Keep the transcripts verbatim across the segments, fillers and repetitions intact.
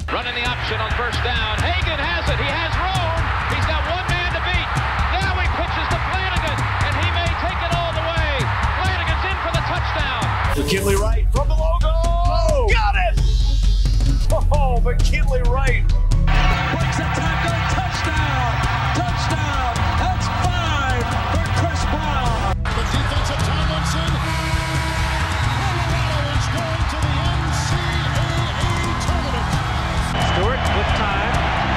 Running the option on first down. Hagan has it. He has room. He's got one man to beat. Now he pitches to Flanagan, and he may take it all the way. Flanagan's in for the touchdown. McKinley Wright from the logo. Oh, got it! Oh, McKinley Wright. Breaks a tackle. Touchdown. Touchdown. That's five for Chris Brown. The defensive Tomlinson. Colorado is going to the N C double A tournament. Stewart with time.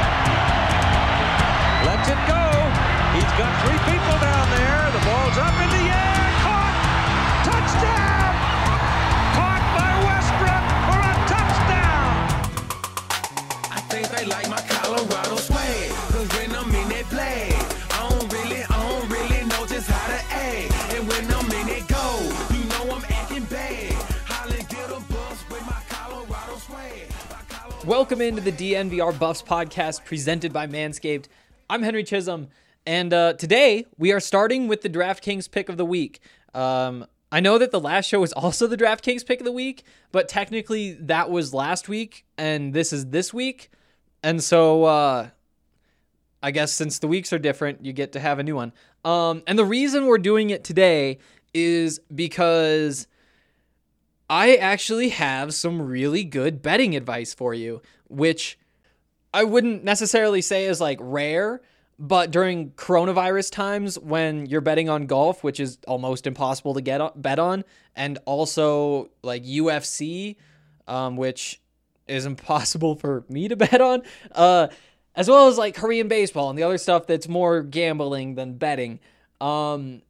Lets it go. He's got three people down there. The ball's up in the air. Caught. Touchdown. Caught by Westbrook for a touchdown. I think they like my Colorado swag. Cause when I'm in that play, I don't really, I don't really know just how to act. And when I'm in it go, you know I'm acting bad. Holly get a bus with my Colorado swag. Welcome into the D N V R Buffs podcast presented by Manscaped. I'm Henry Chisholm, and uh, today we are starting with the DraftKings pick of the week. Um, I know that the last show was also the DraftKings pick of the week, but technically that was last week, and this is this week. And so uh, I guess since the weeks are different, you get to have a new one. Um, and the reason we're doing it today is because I actually have some really good betting advice for you, which I wouldn't necessarily say is like rare, but during coronavirus times when you're betting on golf, which is almost impossible to get on, bet on, and also like U F C, um, which is impossible for me to bet on, uh, as well as like Korean baseball and the other stuff that's more gambling than betting. Um,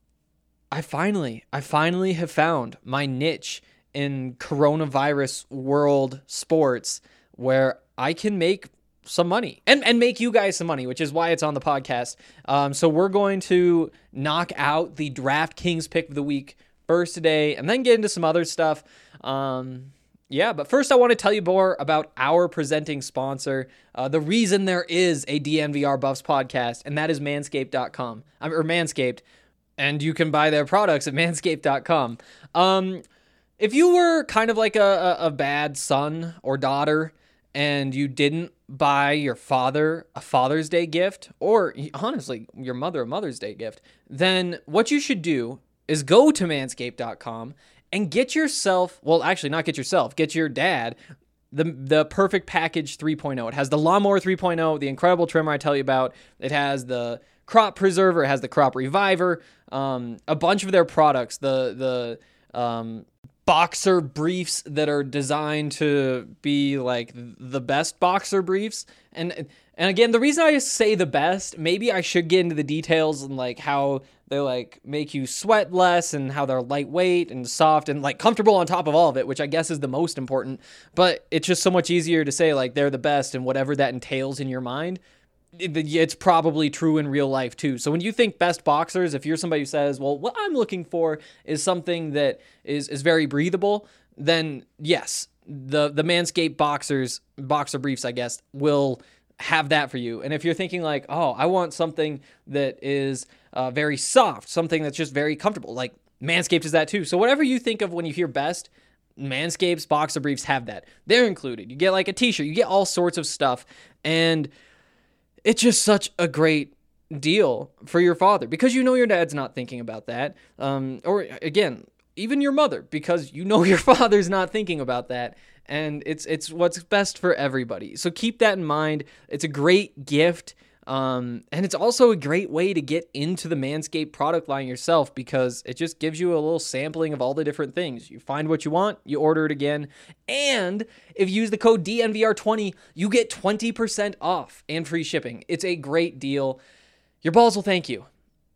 I finally, I finally have found my niche in coronavirus world sports where I can make some money and, and make you guys some money, which is why it's on the podcast. Um, so we're going to knock out the DraftKings pick of the week first today and then get into some other stuff. Um, yeah, but first I want to tell you more about our presenting sponsor, uh, the reason there is a D N V R Buffs podcast, and that is manscaped dot com, or Manscaped, and you can buy their products at manscaped dot com. Um, if you were kind of like a, a, a bad son or daughter and you didn't buy your father a Father's Day gift, or honestly, your mother a Mother's Day gift, then what you should do is go to manscaped dot com and get yourself, well, actually not get yourself, get your dad the the Perfect Package three point oh. It has the Lawnmower three point oh, the incredible trimmer I tell you about. It has the Crop Preserver, it has the Crop Reviver, um, a bunch of their products, the the um, boxer briefs that are designed to be like the best boxer briefs. And and again, the reason I say the best, maybe I should get into the details and like how they like make you sweat less and how they're lightweight and soft and like comfortable on top of all of it, which I guess is the most important. But it's just so much easier to say like they're the best, and whatever that entails in your mind, it's probably true in real life too. So when you think best boxers, if you're somebody who says, well, what I'm looking for is something that is, is very breathable, then yes, the, the Manscaped boxers, boxer briefs, I guess, will have that for you. And if you're thinking like, oh, I want something that is uh, very soft, something that's just very comfortable, like Manscaped is that too. So whatever you think of when you hear best, Manscaped's boxer briefs have that. They're included. You get like a t-shirt, you get all sorts of stuff. And it's just such a great deal for your father because you know your dad's not thinking about that. Um, or again, even your mother, because you know your father's not thinking about that. And it's it's what's best for everybody. So keep that in mind. It's a great gift. Um, and it's also a great way to get into the Manscaped product line yourself because it just gives you a little sampling of all the different things. You find what you want, you order it again. And if you use the code D N V R twenty, you get twenty percent off and free shipping. It's a great deal. Your balls will thank you.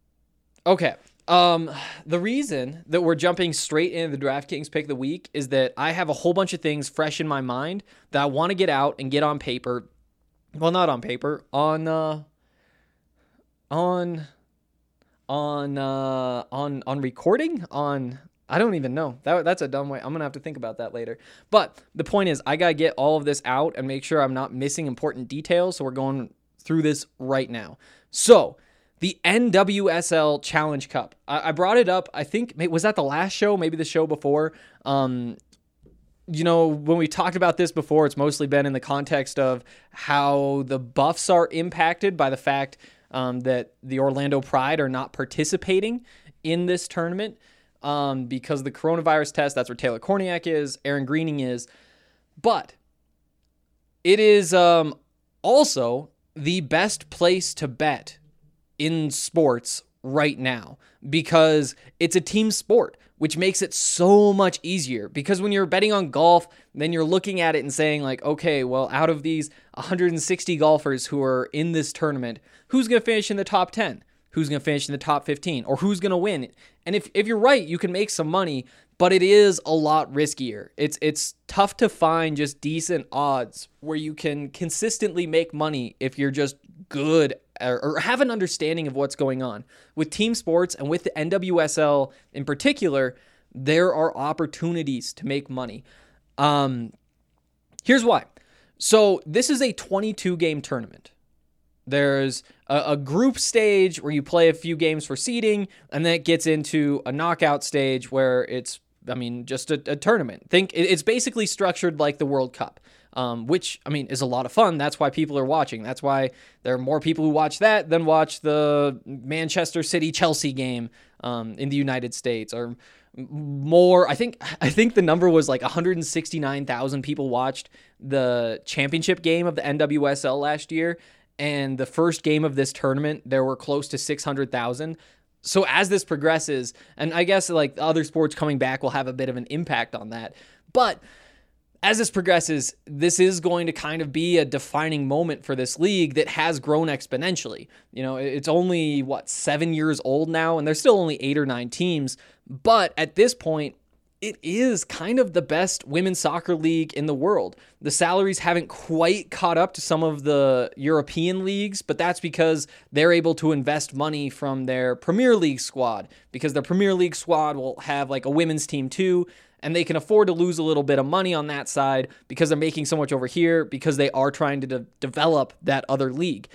Okay. Um, the reason that we're jumping straight into the DraftKings pick of the week is that I have a whole bunch of things fresh in my mind that I want to get out and get on paper. Well, not on paper, on, uh, on, on, uh, on, on recording, on, I don't even know. That That's a dumb way. I'm going to have to think about that later. But the point is, I got to get all of this out and make sure I'm not missing important details. So we're going through this right now. So the N W S L Challenge Cup. I, I brought it up, I think, was that the last show? Maybe the show before. Um, you know, when we talked about this before, it's mostly been in the context of how the Buffs are impacted by the fact um, that the Orlando Pride are not participating in this tournament um, because of the coronavirus test. That's where Taylor Korniak is, Aaron Greening is. But it is um, also the best place to bet in sports right now because it's a team sport, which makes it so much easier. Because when you're betting on golf, then you're looking at it and saying like, okay, well, out of these one hundred sixty golfers who are in this tournament, who's going to finish in the top ten? Who's going to finish in the top fifteen? Or who's going to win? And if, if you're right, you can make some money, but it is a lot riskier. It's it's tough to find just decent odds where you can consistently make money if you're just good or, or have an understanding of what's going on. With team sports and with the N W S L in particular, there are opportunities to make money. Um, here's why. So this is a twenty-two game tournament. There's a, a group stage where you play a few games for seeding, and then it gets into a knockout stage where it's, I mean, just a, a tournament. Think it's basically structured like the World Cup, um, which, I mean, is a lot of fun. That's why people are watching. That's why there are more people who watch that than watch the Manchester City-Chelsea game um, in the United States, or more. I think I think the number was like one hundred sixty-nine thousand people watched the championship game of the N W S L last year. And the first game of this tournament, there were close to six hundred thousand. So as this progresses, and I guess like other sports coming back will have a bit of an impact on that. But as this progresses, this is going to kind of be a defining moment for this league that has grown exponentially. You know, it's only, what, seven years old now, and there's still only eight or nine teams. But at this point, it is kind of the best women's soccer league in the world. The salaries haven't quite caught up to some of the European leagues, but that's because they're able to invest money from their Premier League squad, because their Premier League squad will have like a women's team too, and they can afford to lose a little bit of money on that side because they're making so much over here because they are trying to de- develop that other league.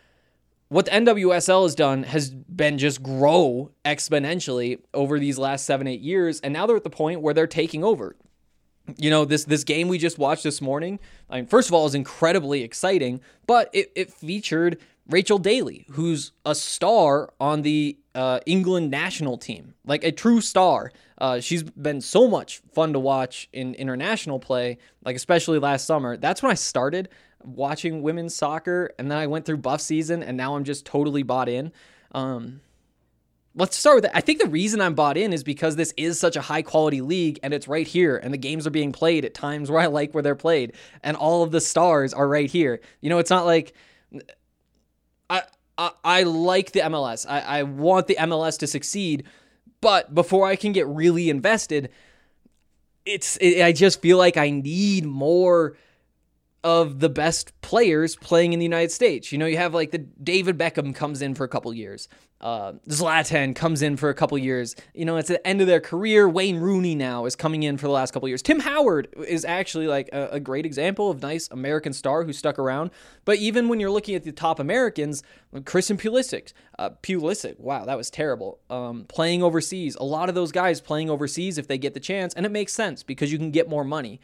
What the N W S L has done has been just grow exponentially over these last seven, eight years, and now they're at the point where they're taking over. You know, this this game we just watched this morning, I mean, first of all, is incredibly exciting, but it, it featured Rachel Daly, who's a star on the uh, England national team, like a true star. Uh, she's been so much fun to watch in international play, like especially last summer. That's when I started watching women's soccer, and then I went through Buff season, and now I'm just totally bought in. Um, let's start with that. I think the reason I'm bought in is because this is such a high quality league, and it's right here, and the games are being played at times where I like where they're played, and all of the stars are right here. You know, it's not like I I, I like the M L S. I, I want the M L S to succeed, but before I can get really invested, it's it, I just feel like I need more of the best players playing in the United States. You know, you have like the David Beckham comes in for a couple years. Uh, Zlatan comes in for a couple years. You know, it's the end of their career. Wayne Rooney now is coming in for the last couple years. Tim Howard is actually like a, a great example of nice American star who stuck around. But even when you're looking at the top Americans, Christian Pulisic, uh, Pulisic, wow, that was terrible. Um, playing overseas, a lot of those guys playing overseas if they get the chance, and it makes sense because you can get more money.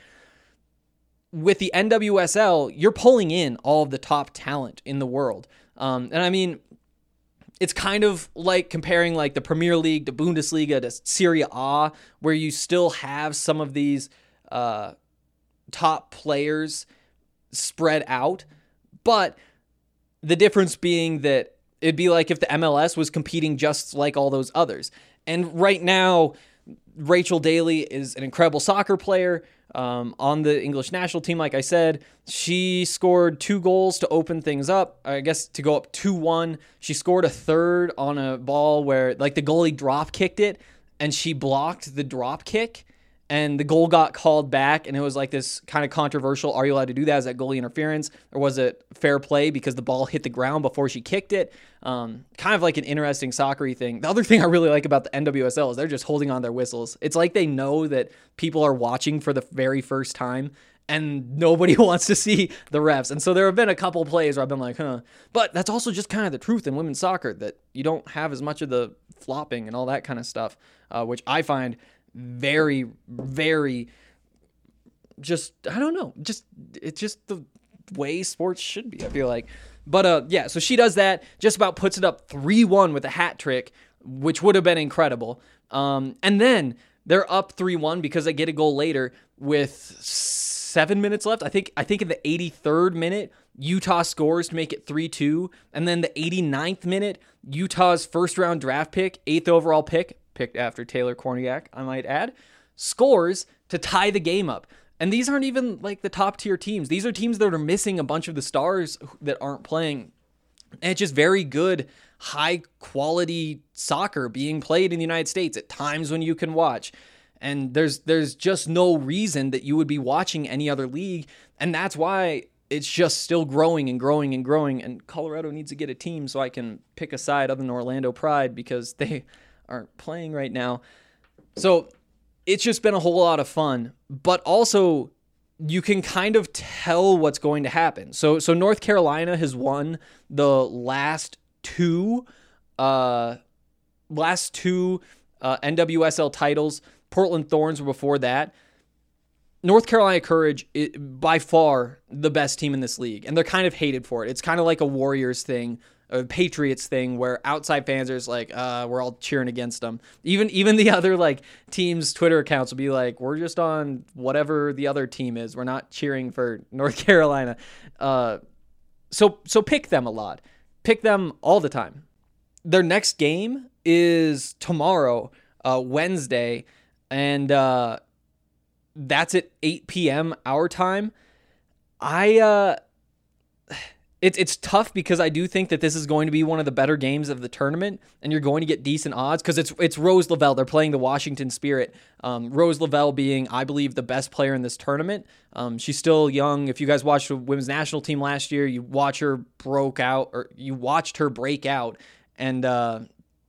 With the N W S L, you're pulling in all of the top talent in the world. Um, and I mean, it's kind of like comparing like the Premier League to Bundesliga to Serie A, where you still have some of these uh, top players spread out. But the difference being that it'd be like if the M L S was competing just like all those others. And right now, Rachel Daly is an incredible soccer player. Um, on the English national team, like I said, she scored two goals to open things up, I guess to go up two one. She scored a third on a ball where like the goalie drop kicked it and she blocked the drop kick and the goal got called back, and it was like this kind of controversial, are you allowed to do that? Is that goalie interference? Or was it fair play because the ball hit the ground before she kicked it? Um, kind of like an interesting soccer-y thing. The other thing I really like about the N W S L is they're just holding on their whistles. It's like they know that people are watching for the very first time, and nobody wants to see the refs. And so there have been a couple plays where I've been like, huh. But that's also just kind of the truth in women's soccer, that you don't have as much of the flopping and all that kind of stuff, uh, which I find very, very just I don't know, just it's just the way sports should be, I feel like. But uh, yeah, so she does that, just about puts it up three one with a hat trick, which would have been incredible. Um, and then they're up three one because they get a goal later with seven minutes left. I think I think in the eighty-third minute, Utah scores to make it three two. And then the eighty-ninth minute, Utah's first-round draft pick, eighth overall pick, picked after Taylor Korniak, I might add, scores to tie the game up. And these aren't even like the top-tier teams. These are teams that are missing a bunch of the stars that aren't playing. And it's just very good, high-quality soccer being played in the United States at times when you can watch. And there's there's just no reason that you would be watching any other league. And that's why it's just still growing and growing and growing. And Colorado needs to get a team so I can pick a side other than Orlando Pride because they aren't playing right now. So it's just been a whole lot of fun. But also, you can kind of tell what's going to happen. So so North Carolina has won the last two, uh, last two uh, N W S L titles. Portland Thorns were before that. North Carolina Courage is by far the best team in this league, and they're kind of hated for it. It's kind of like a Warriors thing, a Patriots thing, where outside fans are just like, uh, we're all cheering against them. Even even the other like teams' Twitter accounts will be like, we're just on whatever the other team is. We're not cheering for North Carolina. Uh, so so pick them a lot. Pick them all the time. Their next game is tomorrow, uh, Wednesday, and uh, that's at eight p.m. our time. I uh, it's it's tough because I do think that this is going to be one of the better games of the tournament, and you're going to get decent odds because it's it's Rose Lavelle. They're playing the Washington Spirit. Um, Rose Lavelle being, I believe, the best player in this tournament. Um, she's still young. If you guys watched the women's national team last year, you watch her broke out, or you watched her break out and uh,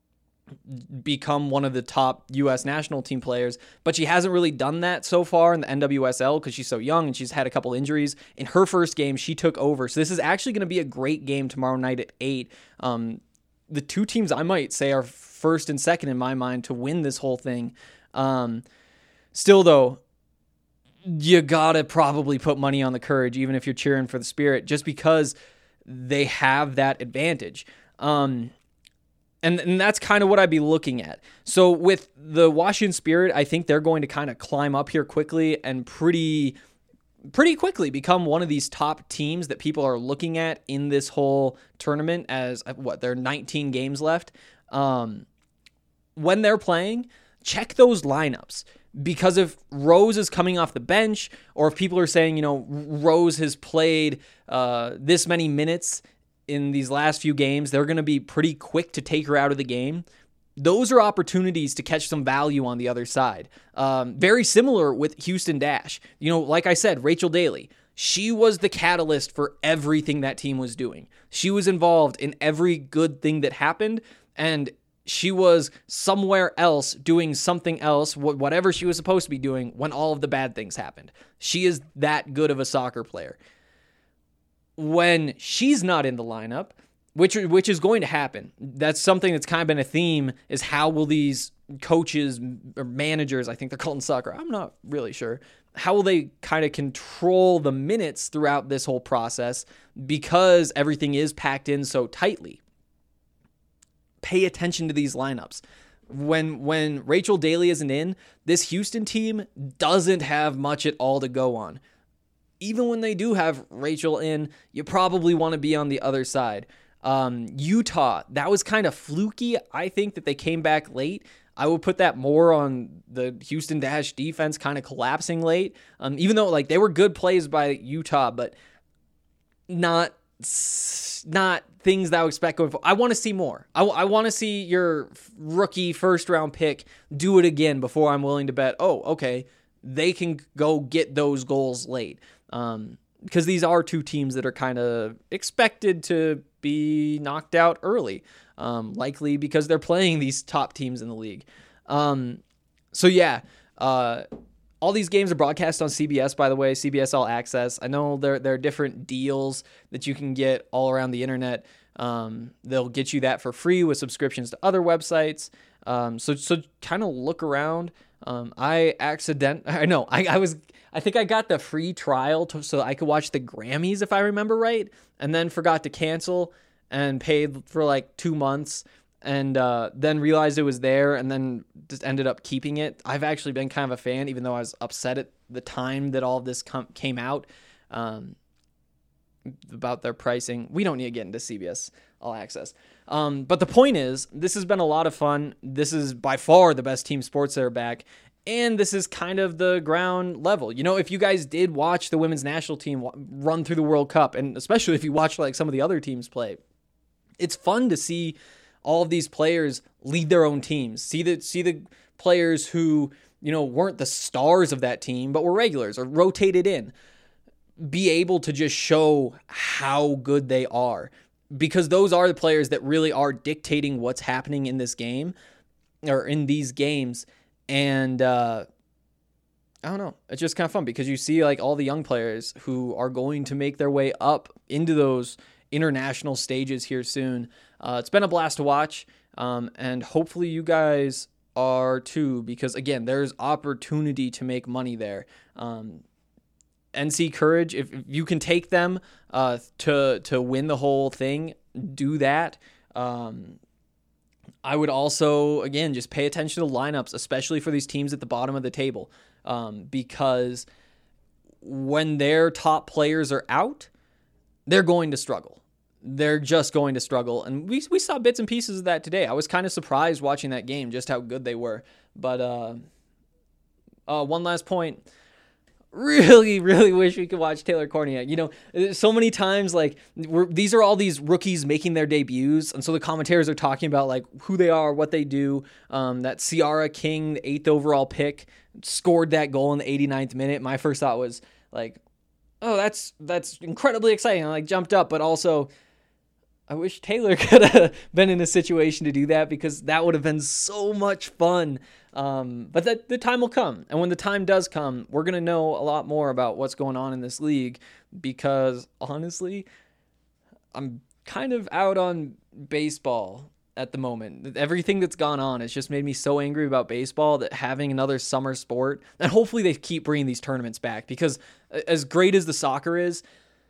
become one of the top U S national team players, but she hasn't really done that so far in the N W S L because she's so young and she's had a couple injuries. In her first game, she took over. So this is actually going to be a great game tomorrow night at eight. Um, the two teams I might say are first and second in my mind to win this whole thing. Um, still, though, you gotta probably put money on the Courage, even if you're cheering for the Spirit, just because they have that advantage. Um, And, and that's kind of what I'd be looking at. So with the Washington Spirit, I think they're going to kind of climb up here quickly and pretty pretty quickly become one of these top teams that people are looking at in this whole tournament as, what, there are nineteen games left. Um, when they're playing, check those lineups. Because if Rose is coming off the bench, or if people are saying, you know, Rose has played uh, this many minutes in these last few games, they're going to be pretty quick to take her out of the game. Those are opportunities to catch some value on the other side. Um, very similar with Houston Dash. You know, like I said, Rachel Daly, she was the catalyst for everything that team was doing. She was involved in every good thing that happened, and she was somewhere else doing something else, whatever she was supposed to be doing, when all of the bad things happened. She is that good of a soccer player. When she's not in the lineup, which which is going to happen, that's something that's kind of been a theme, is how will these coaches or managers, I think they're called in soccer, I'm not really sure, how will they kind of control the minutes throughout this whole process because everything is packed in so tightly. Pay attention to these lineups. When when Rachel Daly isn't in, this Houston team doesn't have much at all to go on. Even when they do have Rachel in, you probably want to be on the other side. Um, Utah, that was kind of fluky. I think that they came back late. I would put that more on the Houston Dash defense kind of collapsing late. Um, even though like they were good plays by Utah, but not not things that I would expect going forward. I want to see more. I, I want to see your rookie first round pick do it again before I'm willing to bet, oh, okay, they can go get those goals late. Um, because these are two teams that are kind of expected to be knocked out early, um, likely because they're playing these top teams in the league. Um, so yeah, uh, all these games are broadcast on C B S, by the way, C B S All Access. I know there, there are different deals that you can get all around the internet. Um, they'll get you that for free with subscriptions to other websites. Um, so, so kind of look around. Um, I accident, I know, I, I was, I think I got the free trial to, so I could watch the Grammys if I remember right, and then forgot to cancel and paid for like two months and uh, then realized it was there and then just ended up keeping it. I've actually been kind of a fan, even though I was upset at the time that all of this com- came out um, about their pricing. We don't need to get into C B S All Access. Um, but the point is, this has been a lot of fun. This is by far the best team sports that are back. And this is kind of the ground level. You know, if you guys did watch the women's national team run through the World Cup, and especially if you watch like some of the other teams play, it's fun to see all of these players lead their own teams. See the, see the players who, you know, weren't the stars of that team, but were regulars or rotated in, be able to just show how good they are. Because those are the players that really are dictating what's happening in this game or in these games. And uh, I don't know. It's just kind of fun because you see like all the young players who are going to make their way up into those international stages here soon. Uh, it's been a blast to watch. Um, and hopefully you guys are too, because again, there's opportunity to make money there. Um, N C Courage, if, if you can take them uh, to to win the whole thing, do that. Um, I would also, again, just pay attention to lineups, especially for these teams at the bottom of the table, um, because when their top players are out, they're going to struggle. They're just going to struggle. And we we saw bits and pieces of that today. I was kind of surprised watching that game, just how good they were. But uh, uh, one last point. Really, really wish we could watch Taylor Korniak. You know, so many times, like, we're, these are all these rookies making their debuts, and so the commentators are talking about, like, who they are, what they do. Um, that Ciara King, the eighth overall pick, scored that goal in the eighty-ninth minute. My first thought was, like, oh, that's that's incredibly exciting. I, like, jumped up, but also, I wish Taylor could have been in a situation to do that because that would have been so much fun. Um, but that the time will come. And when the time does come, we're going to know a lot more about what's going on in this league because honestly, I'm kind of out on baseball at the moment. Everything that's gone on has just made me so angry about baseball that having another summer sport, and hopefully they keep bringing these tournaments back because as great as the soccer is,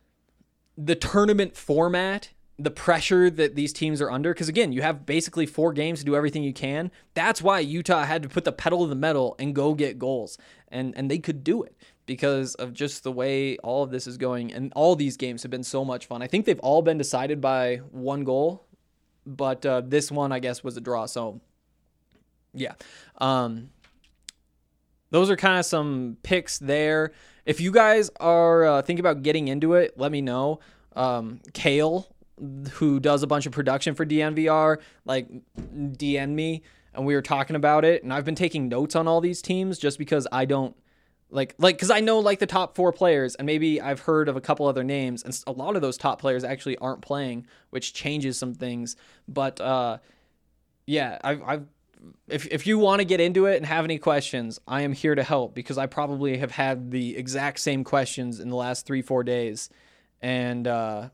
the tournament format, the pressure that these teams are under, because again, you have basically four games to do everything you can. That's why Utah had to put the pedal to the metal and go get goals. And and they could do it because of just the way all of this is going. And all these games have been so much fun. I think they've all been decided by one goal, but uh, this one, I guess, was a draw. So, yeah. Um, those are kind of some picks there. If you guys are uh, thinking about getting into it, let me know. Um, Kale, who does a bunch of production for D N V R, like D M'd me and we were talking about it. And I've been taking notes on all these teams just because I don't like, like, cause I know like the top four players and maybe I've heard of a couple other names and a lot of those top players actually aren't playing, which changes some things. But, uh, yeah, I've, I've, if, if you want to get into it and have any questions, I am here to help because I probably have had the exact same questions in the last three, four days. And, uh,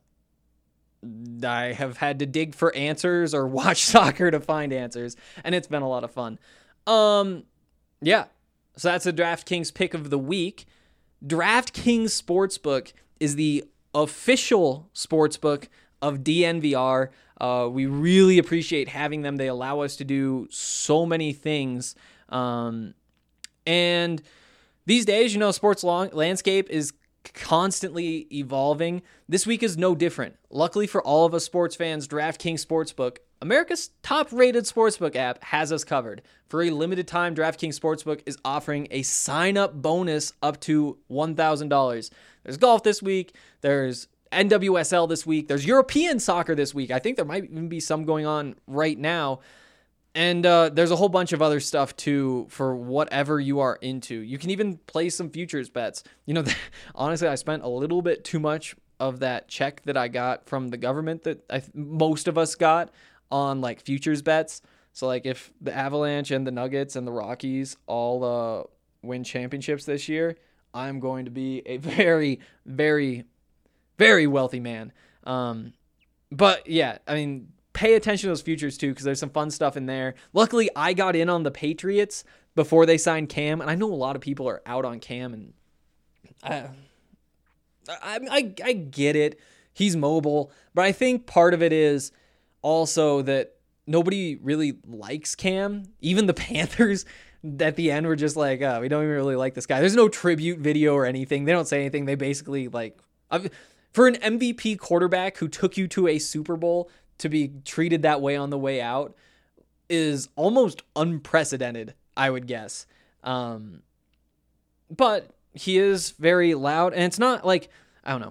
I have had to dig for answers or watch soccer to find answers, and it's been a lot of fun. Um, yeah, so that's the DraftKings pick of the week. DraftKings Sportsbook is the official sportsbook of D N V R. Uh, we really appreciate having them. They allow us to do so many things. Um, and these days, you know, sports long- landscape is constantly evolving. This week is no different. Luckily for all of us sports fans, DraftKings Sportsbook, America's top-rated sportsbook app, has us covered. For a limited time, DraftKings Sportsbook is offering a sign-up bonus up to one thousand dollars. There's golf this week. There's N W S L this week. There's European soccer this week. I think there might even be some going on right now. And uh, there's a whole bunch of other stuff, too, for whatever you are into. You can even play some futures bets. You know, honestly, I spent a little bit too much of that check that I got from the government that I, most of us got on, like, futures bets. So, like, if the Avalanche and the Nuggets and the Rockies all uh, win championships this year, I'm going to be a very, very, very wealthy man. Um, but, yeah, I mean, pay attention to those futures too, because there's some fun stuff in there. Luckily, I got in on the Patriots before they signed Cam. And I know a lot of people are out on Cam, and I, I, I, I get it. He's mobile, but I think part of it is also that nobody really likes Cam. Even the Panthers at the end were just like, oh, we don't even really like this guy. There's no tribute video or anything. They don't say anything. They basically like, for an M V P quarterback who took you to a Super Bowl to be treated that way on the way out is almost unprecedented, I would guess. Um, but he is very loud, and it's not like, I don't know.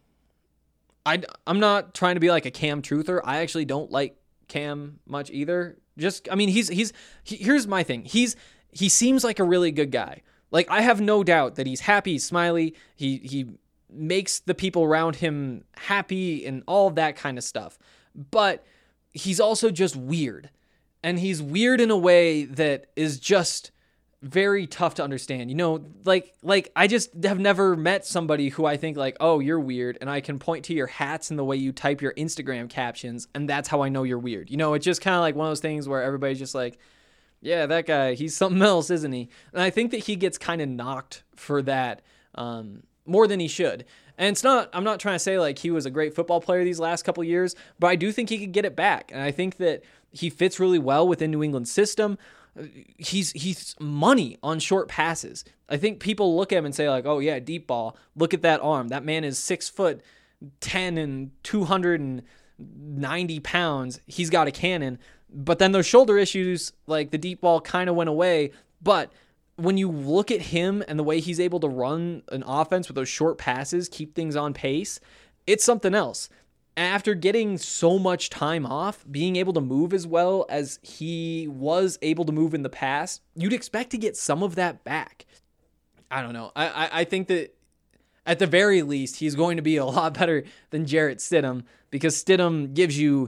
I, I'm not trying to be like a Cam truther. I actually don't like Cam much either. Just, I mean, he's, he's, he, here's my thing. He's, he seems like a really good guy. Like, I have no doubt that he's happy, he's smiley. He, he makes the people around him happy and all of that kind of stuff. But he's also just weird. And he's weird in a way that is just very tough to understand. You know, like, like I just have never met somebody who I think like, oh, you're weird. And I can point to your hats and the way you type your Instagram captions, and that's how I know you're weird. You know, it's just kind of like one of those things where everybody's just like, yeah, that guy, he's something else, isn't he? And I think that he gets kind of knocked for that um, more than he should. And it's not, I'm not trying to say like he was a great football player these last couple of years, but I do think he could get it back. And I think that he fits really well within New England's system. He's he's money on short passes. I think people look at him and say like, oh yeah, deep ball. Look at that arm. That man is six foot ten and two hundred ninety pounds. He's got a cannon. But then those shoulder issues, like the deep ball, kind of went away. But when you look at him and the way he's able to run an offense with those short passes, keep things on pace, it's something else. After getting so much time off, being able to move as well as he was able to move in the past, you'd expect to get some of that back. I don't know. I, I, I think that at the very least, he's going to be a lot better than Jarrett Stidham, because Stidham gives you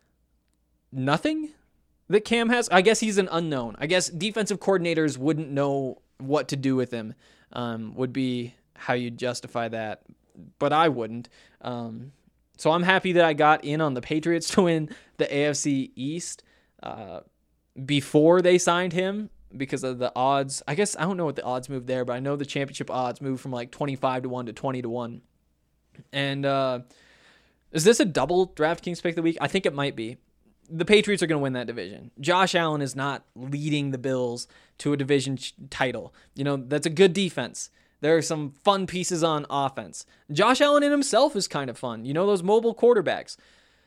nothing that Cam has. I guess he's an unknown. I guess defensive coordinators wouldn't know what to do with him, um, would be how you justify that. But I wouldn't. Um, So I'm happy that I got in on the Patriots to win the A F C East uh, before they signed him, because of the odds. I guess I don't know what the odds moved there, but I know the championship odds moved from like twenty-five to one to twenty to one. And uh, is this a double DraftKings pick of the week? I think it might be. The Patriots are going to win that division. Josh Allen is not leading the Bills to a division title. You know, that's a good defense. There are some fun pieces on offense. Josh Allen in himself is kind of fun. You know, those mobile quarterbacks.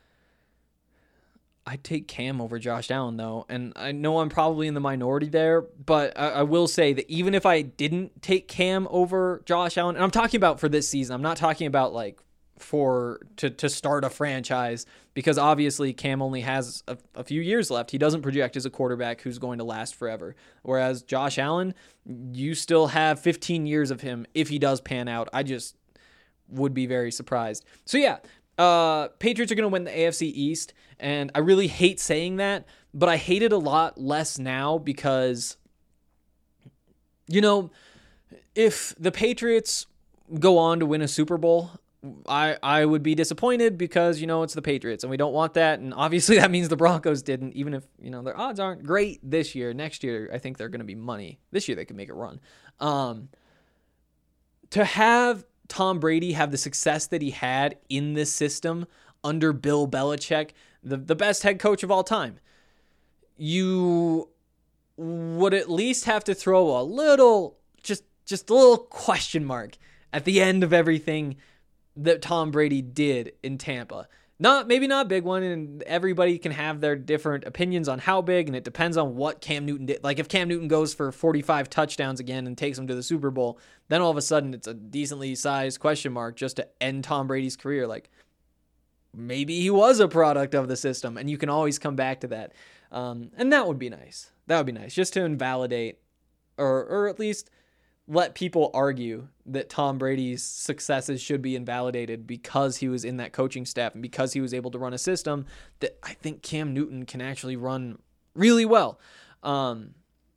I'd take Cam over Josh Allen, though. And I know I'm probably in the minority there, but I, I will say that even if I didn't take Cam over Josh Allen, and I'm talking about for this season, I'm not talking about like for to, to start a franchise, because obviously Cam only has a, a few years left. He doesn't project as a quarterback who's going to last forever. Whereas Josh Allen, you still have fifteen years of him if he does pan out. I just would be very surprised. So yeah, uh, Patriots are going to win the A F C East, and I really hate saying that, but I hate it a lot less now because, you know, if the Patriots go on to win a Super Bowl, I, I would be disappointed because, you know, it's the Patriots and we don't want that. And obviously that means the Broncos didn't, even if, you know, their odds aren't great this year. Next year, I think they're going to be money. This year, they could make a run. Um, to have Tom Brady have the success that he had in this system under Bill Belichick, the, the best head coach of all time, you would at least have to throw a little, just, just a little question mark at the end of everything that Tom Brady did in Tampa. Not, maybe not a big one, and everybody can have their different opinions on how big, and it depends on what Cam Newton did. Like, if Cam Newton goes for forty-five touchdowns again and takes them to the Super Bowl, then all of a sudden it's a decently sized question mark just to end Tom Brady's career. Like, maybe he was a product of the system, and you can always come back to that. Um, and that would be nice. That would be nice, just to invalidate, or or at least let people argue that Tom Brady's successes should be invalidated because he was in that coaching staff and because he was able to run a system that I think Cam Newton can actually run really well. Um,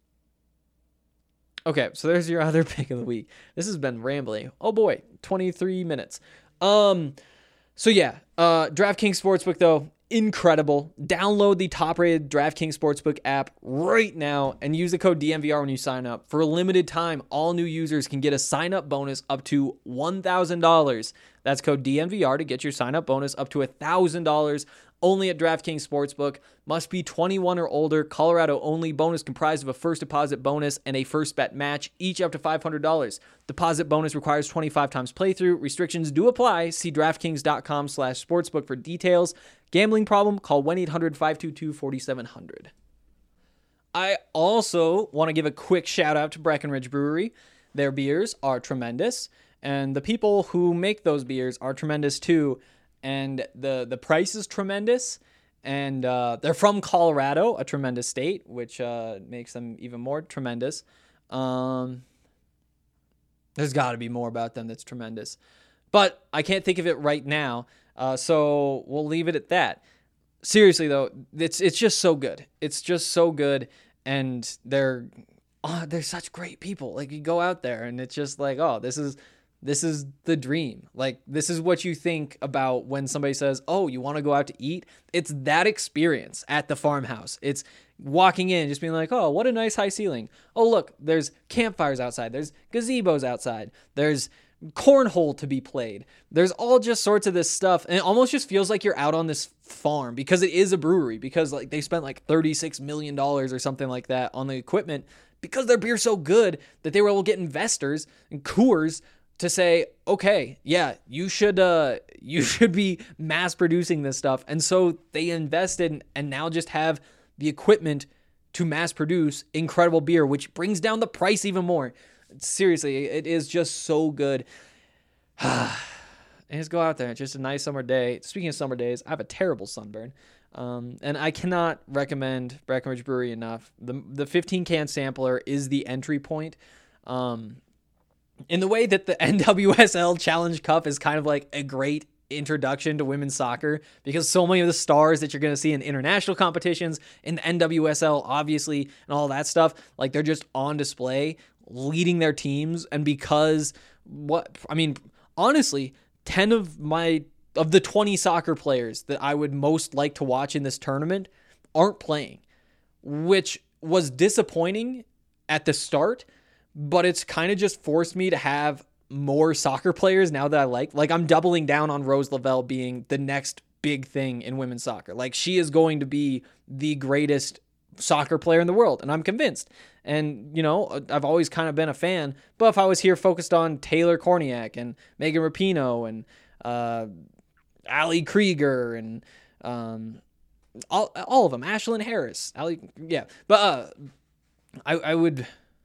okay, so there's your other pick of the week. This has been rambling. Oh boy, twenty-three minutes. Um, so yeah, uh, DraftKings Sportsbook though, incredible. Download the top-rated DraftKings Sportsbook app right now and use the code D N V R when you sign up. For a limited time, all new users can get a sign-up bonus up to one thousand dollars. That's code D N V R to get your sign-up bonus up to one thousand dollars only at DraftKings Sportsbook. Must be twenty-one or older. Colorado only. Bonus comprised of a first deposit bonus and a first bet match, each up to five hundred dollars. Deposit bonus requires twenty-five times playthrough. Restrictions do apply. See DraftKings.com slash sportsbook for details. Gambling problem? Call one eight hundred five two two four seven zero zero. I also want to give a quick shout out to Breckenridge Brewery. Their beers are tremendous, and the people who make those beers are tremendous too. And the, the price is tremendous, and uh, they're from Colorado, a tremendous state, which uh, makes them even more tremendous. Um, there's got to be more about them that's tremendous, but I can't think of it right now, uh, so we'll leave it at that. Seriously, though, it's it's just so good. It's just so good, and they're oh, they're such great people. Like, you go out there, and it's just like, oh, this is... This is the dream. Like, this is what you think about when somebody says, oh, you want to go out to eat? It's that experience at the farmhouse. It's walking in, just being like, oh, what a nice high ceiling. Oh, look, there's campfires outside. There's gazebos outside. There's cornhole to be played. There's all just sorts of this stuff. And it almost just feels like you're out on this farm because it is a brewery, because like they spent like thirty-six million dollars or something like that on the equipment because their beer's so good that they were able to get investors and Coors to say, okay, yeah, you should uh, you should be mass producing this stuff. And so they invested and now just have the equipment to mass produce incredible beer, which brings down the price even more. Seriously, it is just so good. And just go out there. It's just a nice summer day. Speaking of summer days, I have a terrible sunburn. Um, and I cannot recommend Breckenridge Brewery enough. The the fifteen can sampler is the entry point. Um, in the way that the N W S L Challenge Cup is kind of like a great introduction to women's soccer, because so many of the stars that you're going to see in international competitions, in the N W S L, obviously, and all that stuff, like they're just on display, leading their teams. And because what, I mean, honestly, ten of my, of the twenty soccer players that I would most like to watch in this tournament aren't playing, which was disappointing at the start, but it's kind of just forced me to have more soccer players now that I like. Like, I'm doubling down on Rose Lavelle being the next big thing in women's soccer. Like, she is going to be the greatest soccer player in the world, and I'm convinced. And, you know, I've always kind of been a fan, but if I was here focused on Taylor Korniak and Megan Rapinoe and uh, Ali Krieger and um, all all of them, Ashlyn Harris, Ali, yeah. But uh, I, I would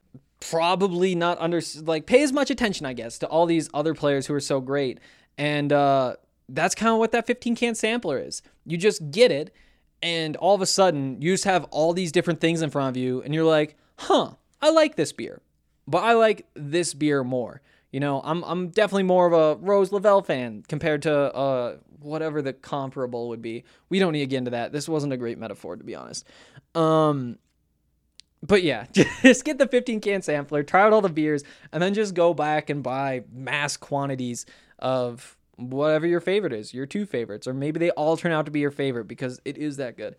probably not under like pay as much attention, I guess, to all these other players who are so great. And uh, that's kind of what that fifteen can sampler is. You just get it, and all of a sudden you just have all these different things in front of you, and you're like, huh, I like this beer, but I like this beer more. You know, I'm I'm definitely more of a Rose Lavelle fan compared to uh whatever the comparable would be. We don't need to get into that. This wasn't a great metaphor, to be honest. Um, but yeah, just get the fifteen can sampler, try out all the beers, and then just go back and buy mass quantities of whatever your favorite is, your two favorites, or maybe they all turn out to be your favorite because it is that good.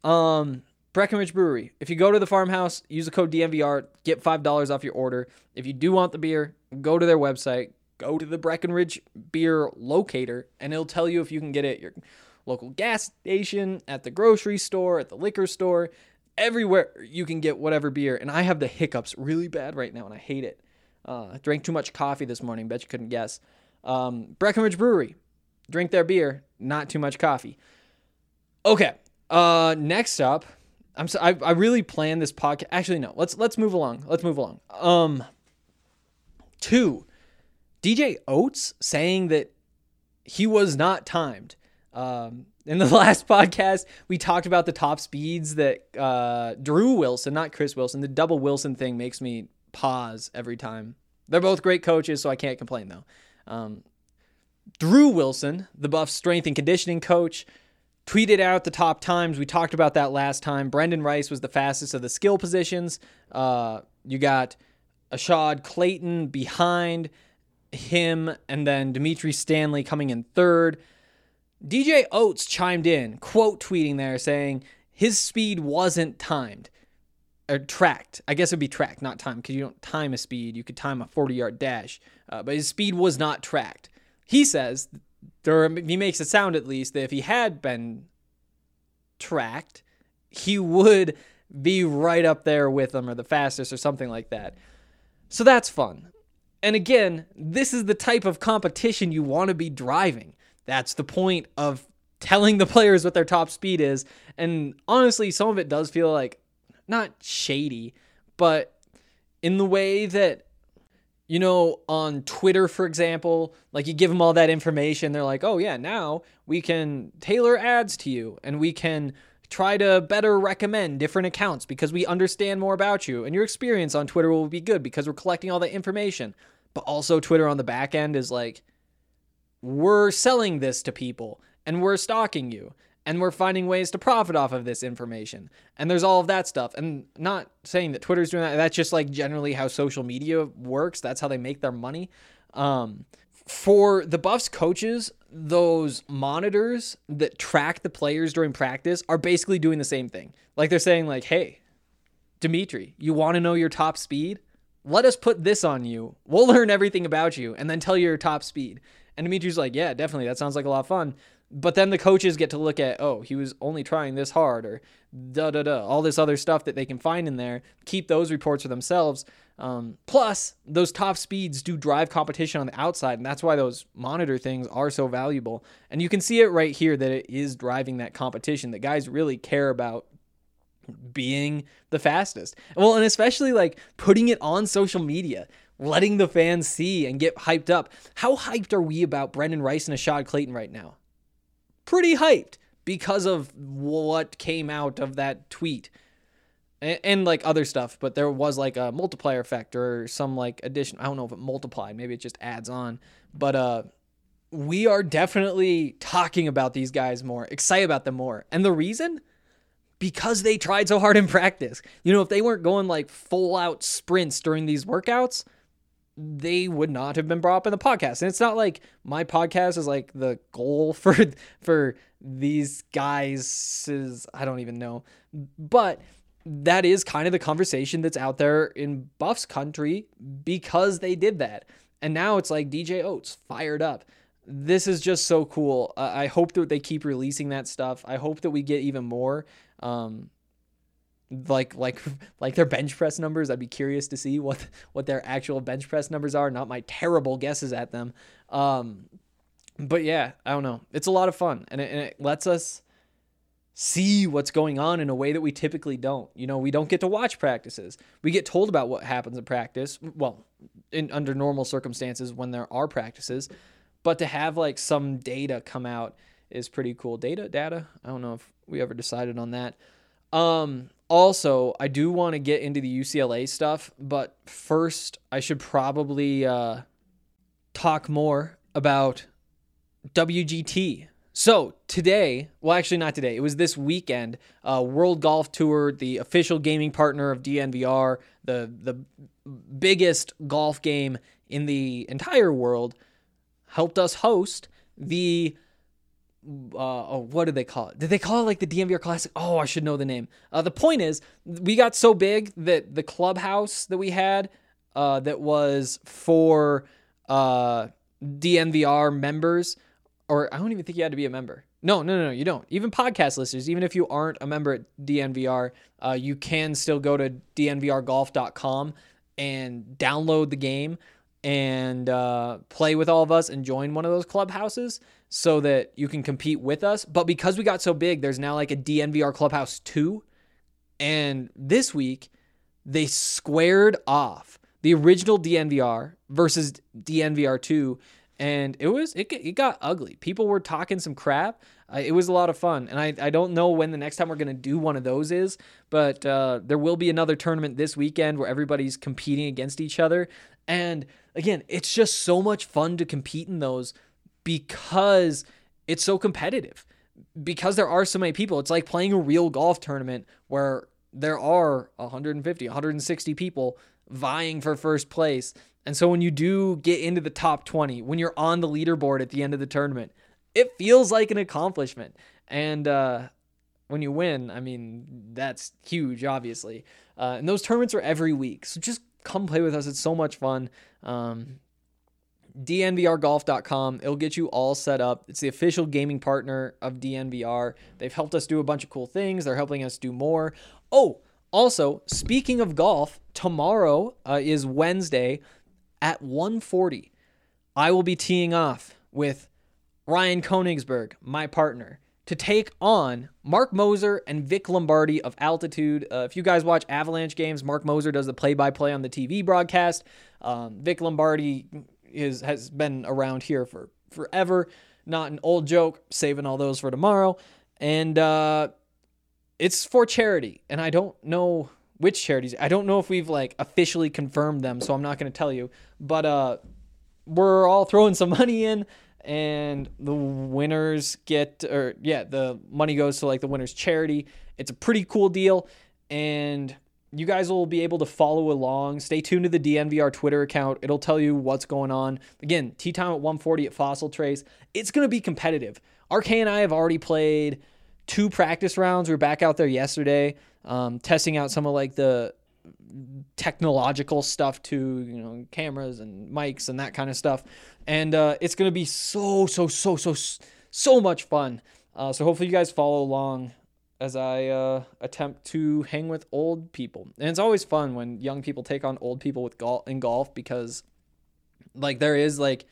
Um, Breckenridge Brewery. If you go to the farmhouse, use the code D N V R, get five dollars off your order. If you do want the beer, go to their website, go to the Breckenridge Beer locator, and it'll tell you if you can get it at your local gas station, at the grocery store, at the liquor store, everywhere you can get whatever beer. And I have the hiccups really bad right now, and I hate it. Uh, I drank too much coffee this morning. Bet you couldn't guess. Um, Breckenridge Brewery. Drink their beer, not too much coffee. Okay. Uh, next up, I'm so, I, I really planned this podcast. Actually, no. Let's let's move along. Let's move along. Um, two, D J Oates saying that he was not timed. Um, in the last podcast, we talked about the top speeds that uh, Drew Wilson, not Chris Wilson, the double Wilson thing makes me pause every time. They're both great coaches, so I can't complain though. Um, Drew Wilson, the Buffs strength and conditioning coach, tweeted out the top times. We talked about that last time. Brendan Rice was the fastest of the skill positions. Uh, you got Ashad Clayton behind him, and then Dimitri Stanley coming in third. D J Oates chimed in, quote tweeting there saying his speed wasn't timed or tracked. I guess it'd be tracked, not timed, because you don't time a speed. You could time a forty-yard dash, uh, but his speed was not tracked. He says, or he makes it sound at least, that if he had been tracked, he would be right up there with them or the fastest or something like that. So that's fun. And again, this is the type of competition you want to be driving. That's the point of telling the players what their top speed is. And honestly, some of it does feel like not shady, but in the way that, you know, on Twitter, for example, like you give them all that information. They're like, oh yeah, now we can tailor ads to you and we can try to better recommend different accounts because we understand more about you and your experience on Twitter will be good because we're collecting all that information. But also Twitter on the back end is like, we're selling this to people and we're stalking you and we're finding ways to profit off of this information. And there's all of that stuff. And not saying that Twitter's doing that. That's just like generally how social media works. That's how they make their money. Um, for the Buffs coaches, those monitors that track the players during practice are basically doing the same thing. Like they're saying like, hey, Dimitri, you want to know your top speed? Let us put this on you. We'll learn everything about you and then tell you your top speed. And Dimitri's like, yeah, definitely. That sounds like a lot of fun. But then the coaches get to look at, oh, he was only trying this hard or da da da, all this other stuff that they can find in there, keep those reports for themselves. Um, plus, those top speeds do drive competition on the outside, and that's why those monitor things are so valuable. And you can see it right here that it is driving that competition, that guys really care about being the fastest. Well, and especially like putting it on social media, letting the fans see and get hyped up. How hyped are we about Brendan Rice and Ashad Clayton right now? Pretty hyped because of what came out of that tweet and, and like other stuff, but there was like a multiplier effect or some like addition. I don't know if it multiplied, maybe it just adds on, but uh, we are definitely talking about these guys more, excited about them more. And the reason? Because they tried so hard in practice. You know, if they weren't going like full out sprints during these workouts, they would not have been brought up in the podcast. And it's not like my podcast is like the goal for for these guys is, I don't even know. But that is kind of the conversation that's out there in Buffs country because they did that. And now it's like D J Oates fired up. This is just so cool. Uh, I hope that they keep releasing that stuff. I hope that we get even more. Um, like like like their bench press numbers. I'd be curious to see what what their actual bench press numbers are, not my terrible guesses at them. Um, but yeah, I don't know. It's a lot of fun, and it, and it lets us see what's going on in a way that we typically don't. You know, we don't get to watch practices. We get told about what happens in practice, well, in under normal circumstances when there are practices, but to have like some data come out is pretty cool. Data, data. I don't know if we ever decided on that. Um, also, I do want to get into the U C L A stuff, but first I should probably uh, talk more about W G T. So today, well, actually not today, it was this weekend, uh, World Golf Tour, the official gaming partner of D N V R, the, the biggest golf game in the entire world, helped us host the Uh, oh, what did they call it? Did they call it like the D N V R Classic? Oh, I should know the name. Uh, the point is, we got so big that the clubhouse that we had uh, that was for uh, D N V R members, or I don't even think you had to be a member. No, no, no, no, you don't. Even podcast listeners, even if you aren't a member at D N V R, uh, you can still go to D N V R golf dot com and download the game and uh, play with all of us and join one of those clubhouses so that you can compete with us. But because we got so big, there's now like a D N V R Clubhouse two. And this week, they squared off the original D N V R versus D N V R two. And it was it, it got ugly. People were talking some crap. Uh, it was a lot of fun. And I, I don't know when the next time we're going to do one of those is, but uh, there will be another tournament this weekend where everybody's competing against each other. And again, it's just so much fun to compete in those because it's so competitive. Because there are so many people. It's like playing a real golf tournament where there are one hundred fifty, one hundred sixty people vying for first place. And so when you do get into the top twenty, when you're on the leaderboard at the end of the tournament, it feels like an accomplishment. And uh, when you win, I mean, that's huge, obviously. Uh, and those tournaments are every week. So just come play with us. It's so much fun. Um, D N V R golf dot com. It'll get you all set up. It's the official gaming partner of D N V R. They've helped us do a bunch of cool things. They're helping us do more. Oh, also, speaking of golf, tomorrow uh, is Wednesday at one forty. I will be teeing off with Ryan Koenigsberg, my partner, to take on Mark Moser and Vic Lombardi of Altitude. Uh, if you guys watch Avalanche games, Mark Moser does the play-by-play on the T V broadcast. Um, Vic Lombardi is has been around here for forever. Not an old joke, saving all those for tomorrow. And uh, it's for charity. And I don't know which charities. I don't know if we've like officially confirmed them, so I'm not going to tell you. But uh, we're all throwing some money in, and the winners get, or yeah, the money goes to like the winner's charity. It's a pretty cool deal, and you guys will be able to follow along. Stay tuned to the D N V R Twitter account. It'll tell you what's going on. Again, tee time at one forty at Fossil Trace. It's going to be competitive. R K and I have already played two practice rounds. We were back out there yesterday, um, testing out some of like the technological stuff too, you know, cameras and mics and that kind of stuff. And uh, it's going to be so, so, so, so, so much fun. Uh, so hopefully you guys follow along as I uh, attempt to hang with old people. And it's always fun when young people take on old people with golf in golf, because like there is like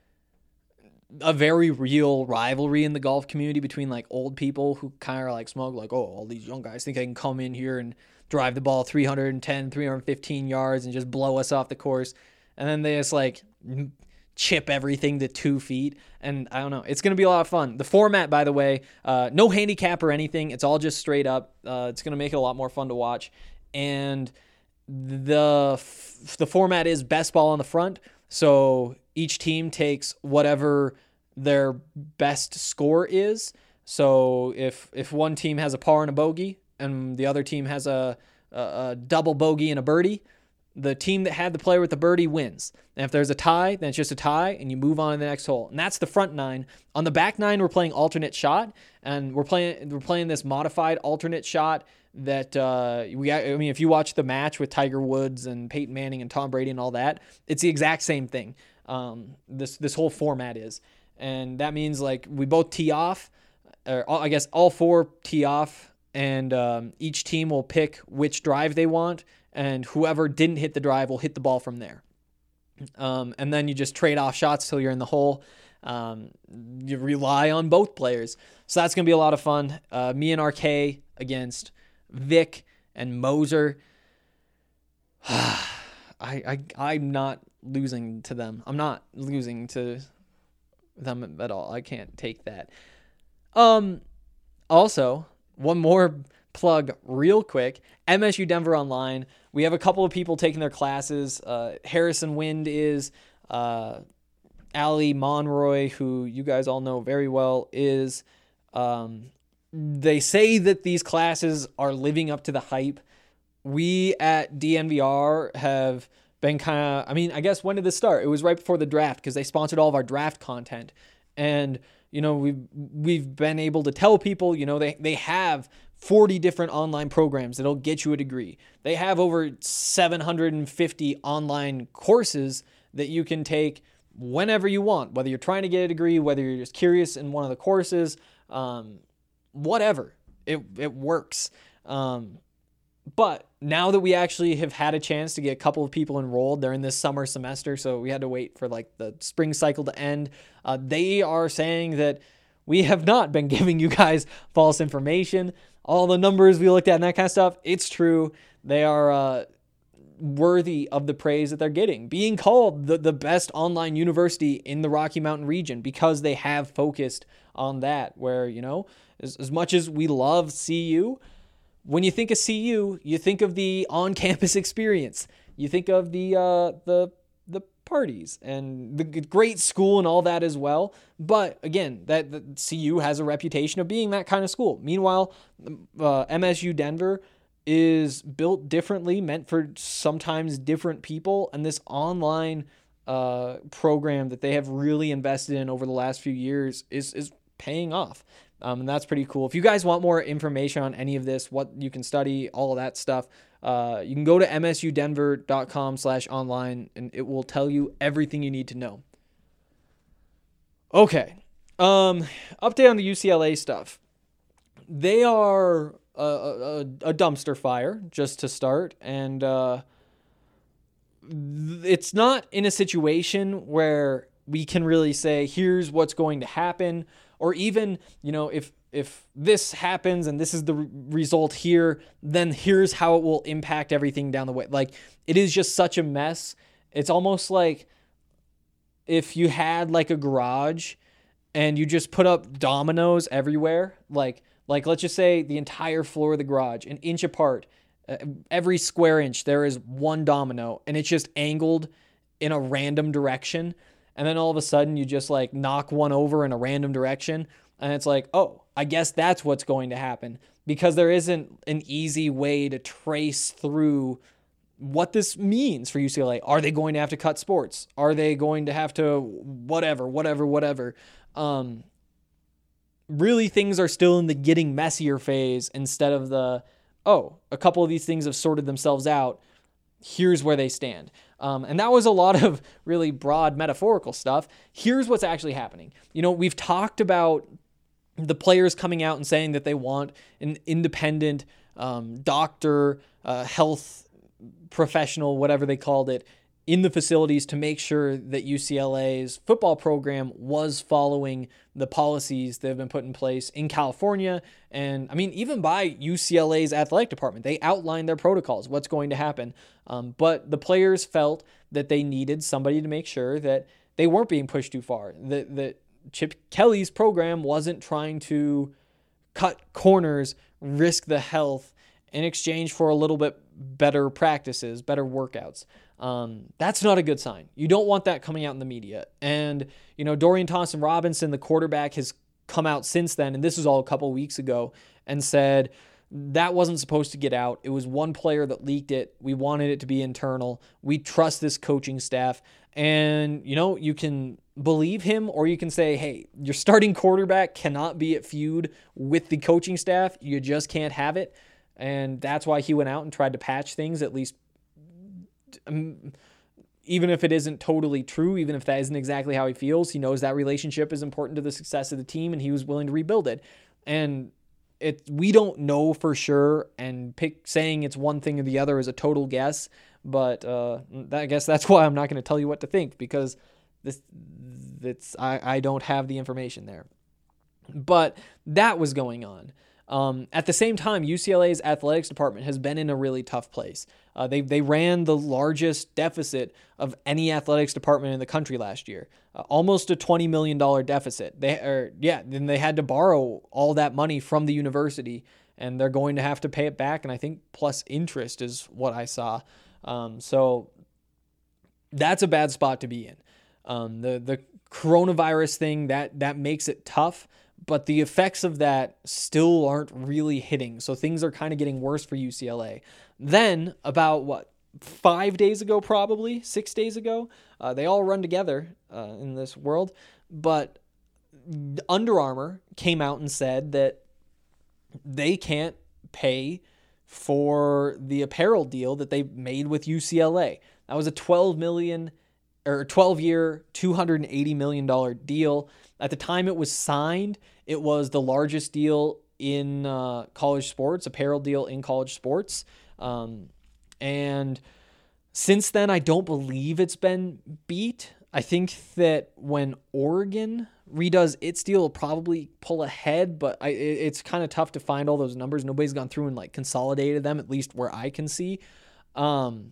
a very real rivalry in the golf community between like old people who kind of like smoke like, oh, all these young guys think they can come in here and drive the ball three ten, three fifteen yards and just blow us off the course. And then they just like chip everything to two feet. And I don't know. It's going to be a lot of fun. The format, by the way, uh, no handicap or anything. It's all just straight up. Uh, it's going to make it a lot more fun to watch. And the f- the format is best ball on the front. So each team takes whatever their best score is. So if if one team has a par and a bogey, and the other team has a, a, a double bogey and a birdie, the team that had the player with the birdie wins. And if there's a tie, then it's just a tie, and you move on to the next hole. And that's the front nine. On the back nine, we're playing alternate shot, and we're playing we're playing this modified alternate shot that uh, we. I mean, if you watch the match with Tiger Woods and Peyton Manning and Tom Brady and all that, it's the exact same thing. Um, this this whole format is, and that means like we both tee off, or I guess all four tee off, and um, each team will pick which drive they want, and whoever didn't hit the drive will hit the ball from there. Um, and then you just trade off shots till you're in the hole. Um, you rely on both players. So that's going to be a lot of fun. Uh, me and R K against Vic and Moser. I, I, I'm not losing to them. I'm not losing to them at all. I can't take that. Um, also, one more plug real quick. M S U Denver Online. We have a couple of people taking their classes. Uh, Harrison Wind is. Uh, Ali Monroy, who you guys all know very well, is. Um, they say that these classes are living up to the hype. We at D N V R have been kind of, I mean, I guess when did this start? It was right before the draft, because they sponsored all of our draft content. And, you know, we've, we've been able to tell people, you know, they, they have forty different online programs that'll get you a degree. They have over seven hundred fifty online courses that you can take whenever you want, whether you're trying to get a degree, whether you're just curious in one of the courses, um, whatever. It, it works. Um, but now that we actually have had a chance to get a couple of people enrolled, they're in this summer semester, so we had to wait for like the spring cycle to end. Uh, they are saying that we have not been giving you guys false information. All the numbers we looked at and that kind of stuff, it's true. They are uh, worthy of the praise that they're getting, being called the, the best online university in the Rocky Mountain region, because they have focused on that, where, you know, as, as much as we love C U, when you think of C U, you think of the on-campus experience. You think of the uh, the the parties and the great school and all that as well. But again, that the C U has a reputation of being that kind of school. Meanwhile, uh, M S U Denver is built differently, meant for sometimes different people. And this online uh, program that they have really invested in over the last few years is is paying off. Um, and that's pretty cool. If you guys want more information on any of this, what you can study, all of that stuff, uh, you can go to m s u denver dot com slash online, and it will tell you everything you need to know. Okay. Um, update on the U C L A stuff. They are a, a, a dumpster fire, just to start, and uh, it's not in a situation where we can really say, here's what's going to happen. Or even, you know, if if this happens and this is the re- result here, then here's how it will impact everything down the way. Like, it is just such a mess. It's almost like if you had like a garage and you just put up dominoes everywhere, like like let's just say the entire floor of the garage, an inch apart, uh, every square inch there is one domino, and it's just angled in a random direction. And then all of a sudden you just like knock one over in a random direction. And it's like, oh, I guess that's what's going to happen, because there isn't an easy way to trace through what this means for U C L A. Are they going to have to cut sports? Are they going to have to whatever, whatever, whatever? Um, really, things are still in the getting messier phase instead of the, oh, a couple of these things have sorted themselves out. Here's where they stand. Um, and that was a lot of really broad metaphorical stuff. Here's what's actually happening. You know, we've talked about the players coming out and saying that they want an independent um, doctor, uh, health professional, whatever they called it, in the facilities to make sure that U C L A's football program was following the policies that have been put in place in California. And I mean, even by U C L A's athletic department, they outlined their protocols, what's going to happen. Um, but the players felt that they needed somebody to make sure that they weren't being pushed too far, that, that Chip Kelly's program wasn't trying to cut corners, risk the health in exchange for a little bit better practices, better workouts. Um, that's not a good sign. You don't want that coming out in the media. And, you know, Dorian Thompson-Robinson, the quarterback, has come out since then, and this was all a couple weeks ago, and said that wasn't supposed to get out. It was one player that leaked it. We wanted it to be internal. We trust this coaching staff. And, you know, you can believe him, or you can say, hey, your starting quarterback cannot be at feud with the coaching staff. You just can't have it. And that's why he went out and tried to patch things, at least, um, even if it isn't totally true, even if that isn't exactly how he feels. He knows that relationship is important to the success of the team, and he was willing to rebuild it. And it, we don't know for sure, and pick, saying it's one thing or the other is a total guess. But uh, I guess that's why I'm not going to tell you what to think, because this, it's I, I don't have the information there. But that was going on. Um, at the same time, U C L A's athletics department has been in a really tough place. Uh, they they ran the largest deficit of any athletics department in the country last year, uh, almost a twenty million dollars deficit. They are yeah, then they had to borrow all that money from the university, and they're going to have to pay it back. And I think plus interest is what I saw. Um, so that's a bad spot to be in. Um, the the coronavirus thing that that makes it tough. But the effects of that still aren't really hitting. So things are kind of getting worse for U C L A. Then, about what, five days ago, probably, six days ago, uh, they all run together uh, in this world. But Under Armour came out and said that they can't pay for the apparel deal that they made with U C L A. That was a twelve million dollars or twelve-year, two hundred eighty million dollars deal. At the time it was signed, it was the largest deal in uh, college sports, apparel deal in college sports. Um, and since then, I don't believe it's been beat. I think that when Oregon redoes its deal, it'll probably pull ahead, but I, it, it's kind of tough to find all those numbers. Nobody's gone through and like consolidated them, at least where I can see. Um,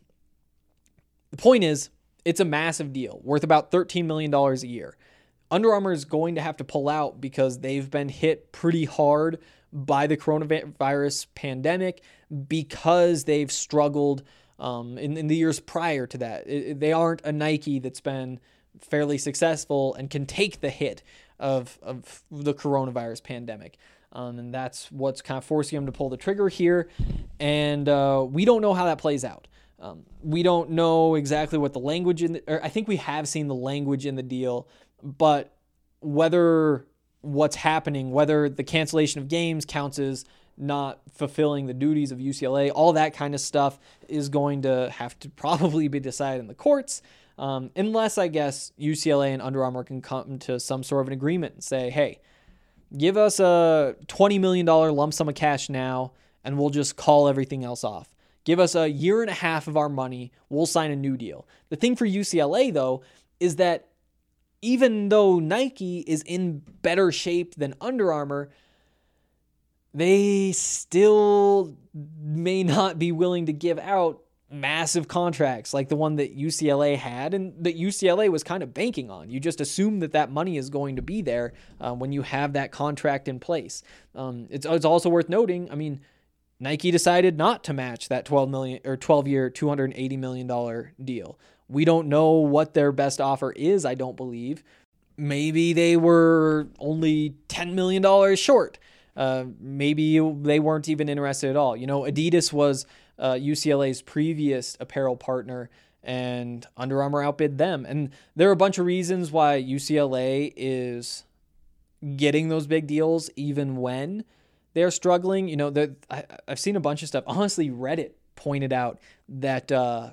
the point is, it's a massive deal worth about thirteen million dollars a year. Under Armour is going to have to pull out because they've been hit pretty hard by the coronavirus pandemic, because they've struggled um, in, in the years prior to that. It, they aren't a Nike that's been fairly successful and can take the hit of, of the coronavirus pandemic. Um, and that's what's kind of forcing them to pull the trigger here. And uh, we don't know how that plays out. Um, we don't know exactly what the language in the, or I think we have seen the language in the deal, but whether what's happening, whether the cancellation of games counts as not fulfilling the duties of U C L A, all that kind of stuff is going to have to probably be decided in the courts. Um, unless, I guess, U C L A and Under Armour can come to some sort of an agreement and say, hey, give us a twenty million dollars lump sum of cash now, and we'll just call everything else off. Give us a year and a half of our money, we'll sign a new deal. The thing for U C L A, though, is that even though Nike is in better shape than Under Armour, they still may not be willing to give out massive contracts like the one that U C L A had and that U C L A was kind of banking on. You just assume that that money is going to be there uh, when you have that contract in place. Um, it's, it's also worth noting, I mean, Nike decided not to match that twelve million or twelve year, two hundred eighty million dollars deal. We don't know what their best offer is, I don't believe. Maybe they were only ten million dollars short. Uh, maybe they weren't even interested at all. You know, Adidas was uh, U C L A's previous apparel partner, and Under Armour outbid them. And there are a bunch of reasons why U C L A is getting those big deals even when they're struggling. You know, I, I've seen a bunch of stuff. Honestly, Reddit pointed out that uh,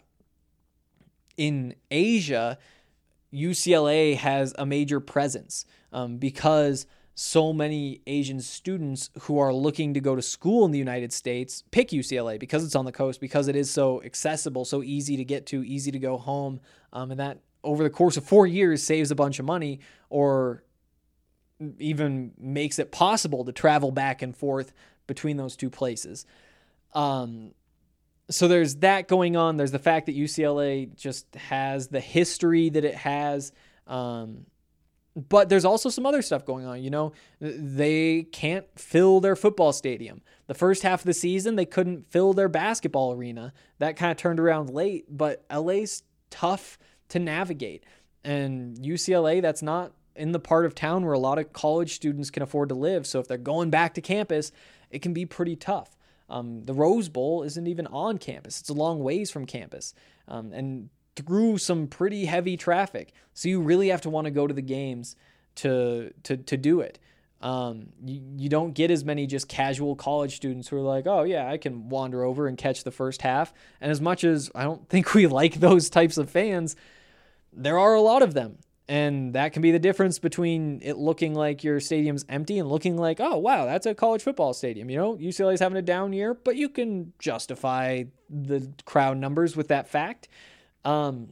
in Asia, U C L A has a major presence um, because so many Asian students who are looking to go to school in the United States pick U C L A because it's on the coast, because it is so accessible, so easy to get to, easy to go home. Um, and that over the course of four years saves a bunch of money, or even makes it possible to travel back and forth between those two places. Um, so there's that going on. There's the fact that U C L A just has the history that it has. Um, But there's also some other stuff going on. You know, they can't fill their football stadium. The first half of the season, they couldn't fill their basketball arena. That kind of turned around late, but L A's tough to navigate. And U C L A, that's not in the part of town where a lot of college students can afford to live. So if they're going back to campus, it can be pretty tough. Um, the Rose Bowl isn't even on campus. It's a long ways from campus. Um, and through some pretty heavy traffic. So you really have to want to go to the games to to to do it. Um, you, you don't get as many just casual college students who are like, oh yeah, I can wander over and catch the first half. And as much as I don't think we like those types of fans, there are a lot of them. And that can be the difference between it looking like your stadium's empty and looking like, oh wow, that's a college football stadium. You know, U C L A's having a down year, but you can justify the crowd numbers with that fact. Um,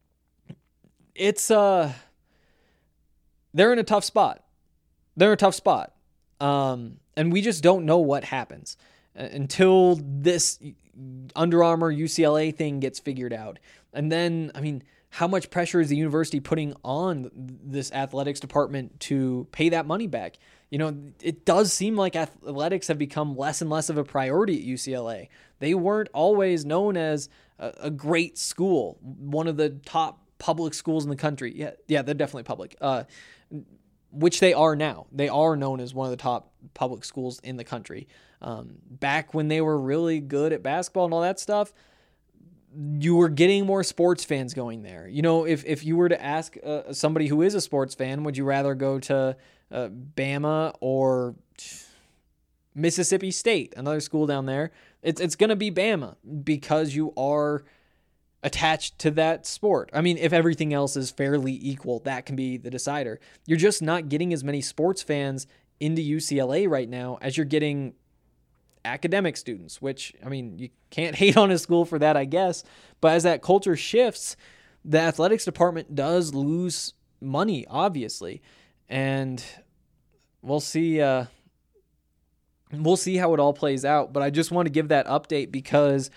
it's, uh, they're in a tough spot. They're in a tough spot. Um, and we just don't know what happens until this Under Armour U C L A thing gets figured out. And then, I mean, how much pressure is the university putting on this athletics department to pay that money back? You know, it does seem like athletics have become less and less of a priority at U C L A. They weren't always known as a, a great school, one of the top public schools in the country. Yeah, yeah, they're definitely public, uh, which they are now. They are known as one of the top public schools in the country. Um, back when they were really good at basketball and all that stuff, you were getting more sports fans going there. You know, if, if you were to ask uh, somebody who is a sports fan, would you rather go to uh, Bama or Mississippi State, another school down there? It's it's going to be Bama because you are attached to that sport. I mean, if everything else is fairly equal, that can be the decider. You're just not getting as many sports fans into U C L A right now as you're getting academic students, which, I mean, you can't hate on a school for that, I guess. But as that culture shifts, the athletics department does lose money, obviously. And we'll see, uh, we'll see how it all plays out. But I just want to give that update because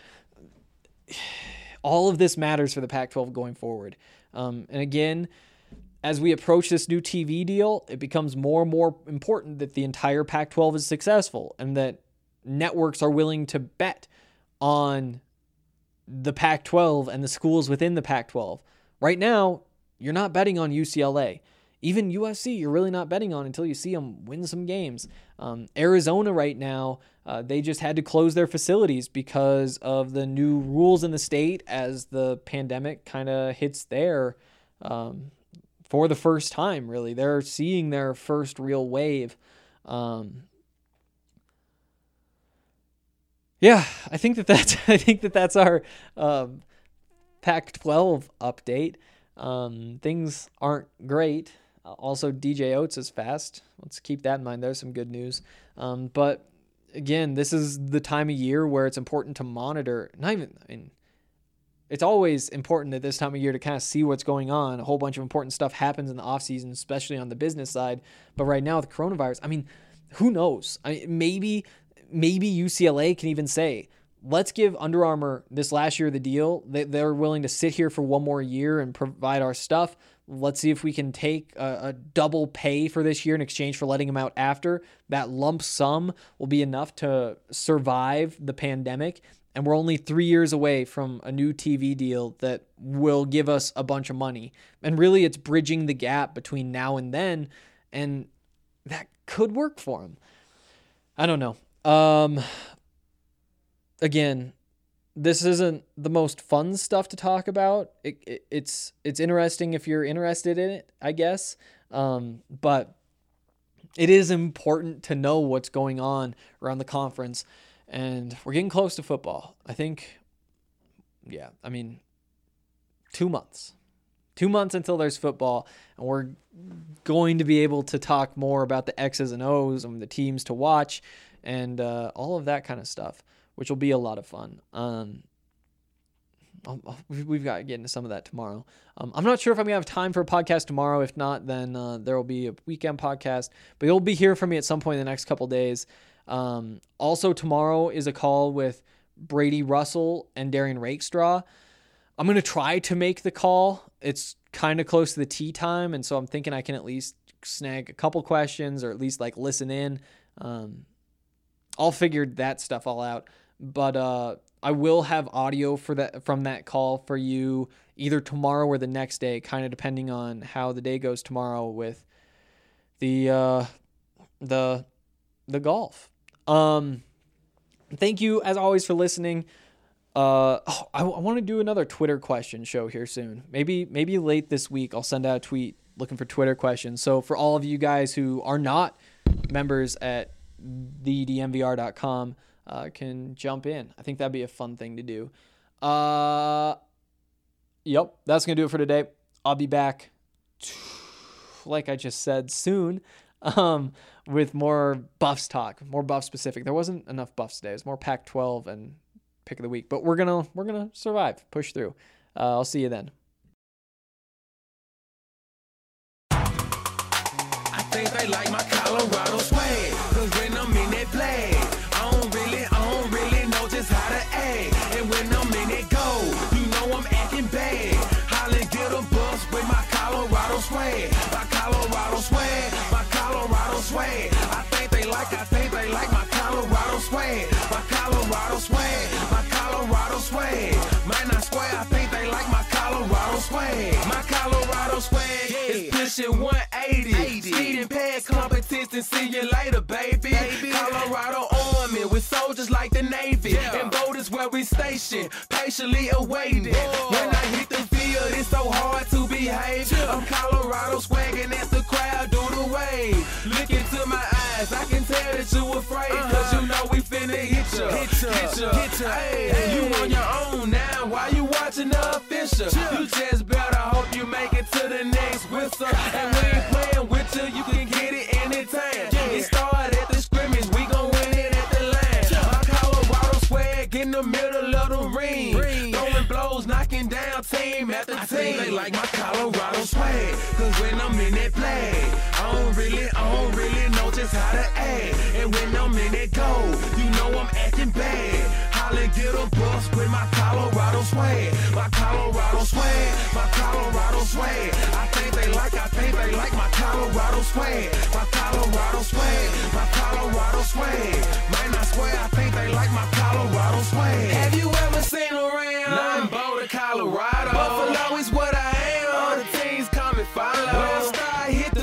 all of this matters for the Pac twelve going forward. Um, and again, as we approach this new T V deal, it becomes more and more important that the entire Pac twelve is successful and that networks are willing to bet on the Pac twelve and the schools within the Pac twelve. Right now, you're not betting on U C L A. even U S C, you're really not betting on until you see them win some games. Um, Arizona right now, uh, they just had to close their facilities because of the new rules in the state as the pandemic kind of hits there um, for the first time, really. They're seeing their first real wave. Um, yeah, I think that that's, I think that that's our um, Pac twelve update. Um, things aren't great. Also, D J Oates is fast. Let's keep that in mind. There's some good news. Um, but again, this is the time of year where it's important to monitor. Not even, I mean, it's always important at this time of year to kind of see what's going on. A whole bunch of important stuff happens in the off season, especially on the business side. But right now with coronavirus, I mean, who knows? I maybe, maybe U C L A can even say, let's give Under Armour this last year the deal. They, they're willing to sit here for one more year and provide our stuff. Let's see if we can take a, a double pay for this year in exchange for letting them out after. That lump sum will be enough to survive the pandemic. And we're only three years away from a new T V deal that will give us a bunch of money. And really, it's bridging the gap between now and then. And that could work for them. I don't know. Um, again, this isn't the most fun stuff to talk about. It, it, it's it's interesting if you're interested in it, I guess. Um, but it is important to know what's going on around the conference. And we're getting close to football. I think, yeah, I mean, two months. Two months until there's football. And we're going to be able to talk more about the X's and O's and the teams to watch and uh, all of that kind of stuff, which will be a lot of fun. Um, we've got to get into some of that tomorrow. Um, I'm not sure if I'm going to have time for a podcast tomorrow. If not, then uh, there will be a weekend podcast. But you'll be hearing from me at some point in the next couple days. Um, also, tomorrow is a call with Brady Russell and Darian Rakestraw. I'm going to try to make the call. It's kind of close to the tea time, and so I'm thinking I can at least snag a couple questions or at least like listen in. Um, I'll figure that stuff all out. But uh, I will have audio for that from that call for you either tomorrow or the next day, kind of depending on how the day goes tomorrow with the uh, the the golf. Um, thank you as always for listening. Uh, oh, I, I want to do another Twitter question show here soon. Maybe maybe late this week I'll send out a tweet looking for Twitter questions. So for all of you guys who are not members at the d m v r dot com, uh, can jump in. I think that'd be a fun thing to do. Uh, yep, that's gonna do it for today. I'll be back, like I just said, soon. Um, with more Buffs talk, more Buff specific. There wasn't enough Buffs today. It's more Pac twelve and pick of the week, but we're gonna we're gonna survive, push through. Uh, I'll see you then. I think they like my Colorado swag, cause when I'm in that play, I don't really, I don't really know just how to act. And when I'm in that go, you know I'm acting bad. Holla, get a bus with my Colorado swag, my Colorado swag, my Colorado swag. I think they like, I think they like my Colorado swag, my Colorado swag, my Colorado swag. Man, I swear, I think they like my Colorado swag, my Colorado swag is pushing one eighty. Speeding past competition, see you later, baby. baby. Colorado Army with soldiers like the Navy, yeah. And boat is where we station, patiently awaiting. Whoa. When I hit the field, it's so hard to behave. Yeah. I'm Colorado swagging as the crowd do the wave. Look into my eyes, I can tell that you afraid, uh-huh. Cause you know we finna hit ya, hit ya, hit ya, hit ya. Hey, hey. You on your own now, why you watching the official? Yeah. You just better hope you make it to the next whistle. And we ain't playing with you, you can get it anytime. Yeah. It started at the scrimmage, we gon' win it at the line. Yeah. My Colorado swag in the middle of the ring, ring. Throwing blows, knocking down team after I team. Think they like my Colorado swag, cause when I'm in that play, I don't really, I don't really know just how to act. And when I'm in that go, you know I'm acting bad. Holla, get a bus with my Colorado swag, my Colorado swag, my Colorado swag. I think they like, I think they like my Colorado swag, my Colorado swag, my Colorado swag. Man, I swear, I think they like my Colorado swag. Have you ever seen around? Nothing Boulder, Colorado. Buffalo is what I am. All the teams come and follow. When I start hit the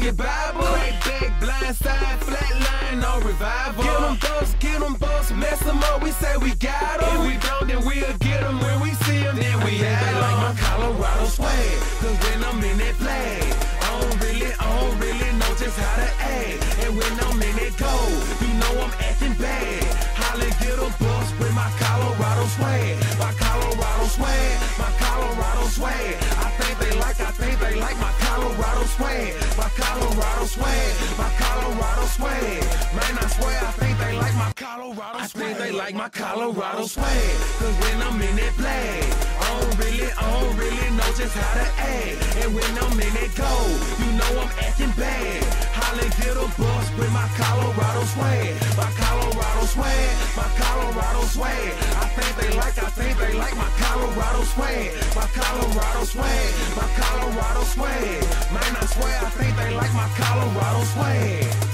your Bible. Crack back, blind side, flat line, no revival. Get them bumps, get them bumps, mess them up, we say we got them. If we don't, then we'll get them. When we see them, then we have them. Like my Colorado swag, cause when I'm in that flag, I don't really, I don't really know just how to act. And when I'm in that gold, you know I'm acting bad. Holla, get a bus with my Colorado swag. My Colorado swag, my Colorado swag. I think they like, I think they like my Colorado swag. My Colorado swag, my Colorado swag. Man, I swear, I think they like my Colorado swag. I think they like my Colorado swag. Cause when I'm in that flag, I don't really, I don't really know just how to act. And when I'm in that gold, you know I'm acting bad. Holla, get a bus with my Colorado swag. My Colorado swag, my Colorado swag. I think they like, I think they like my Colorado swag. My Colorado swag, my Colorado swag. Man, I swear, I think they like my Colorado swag.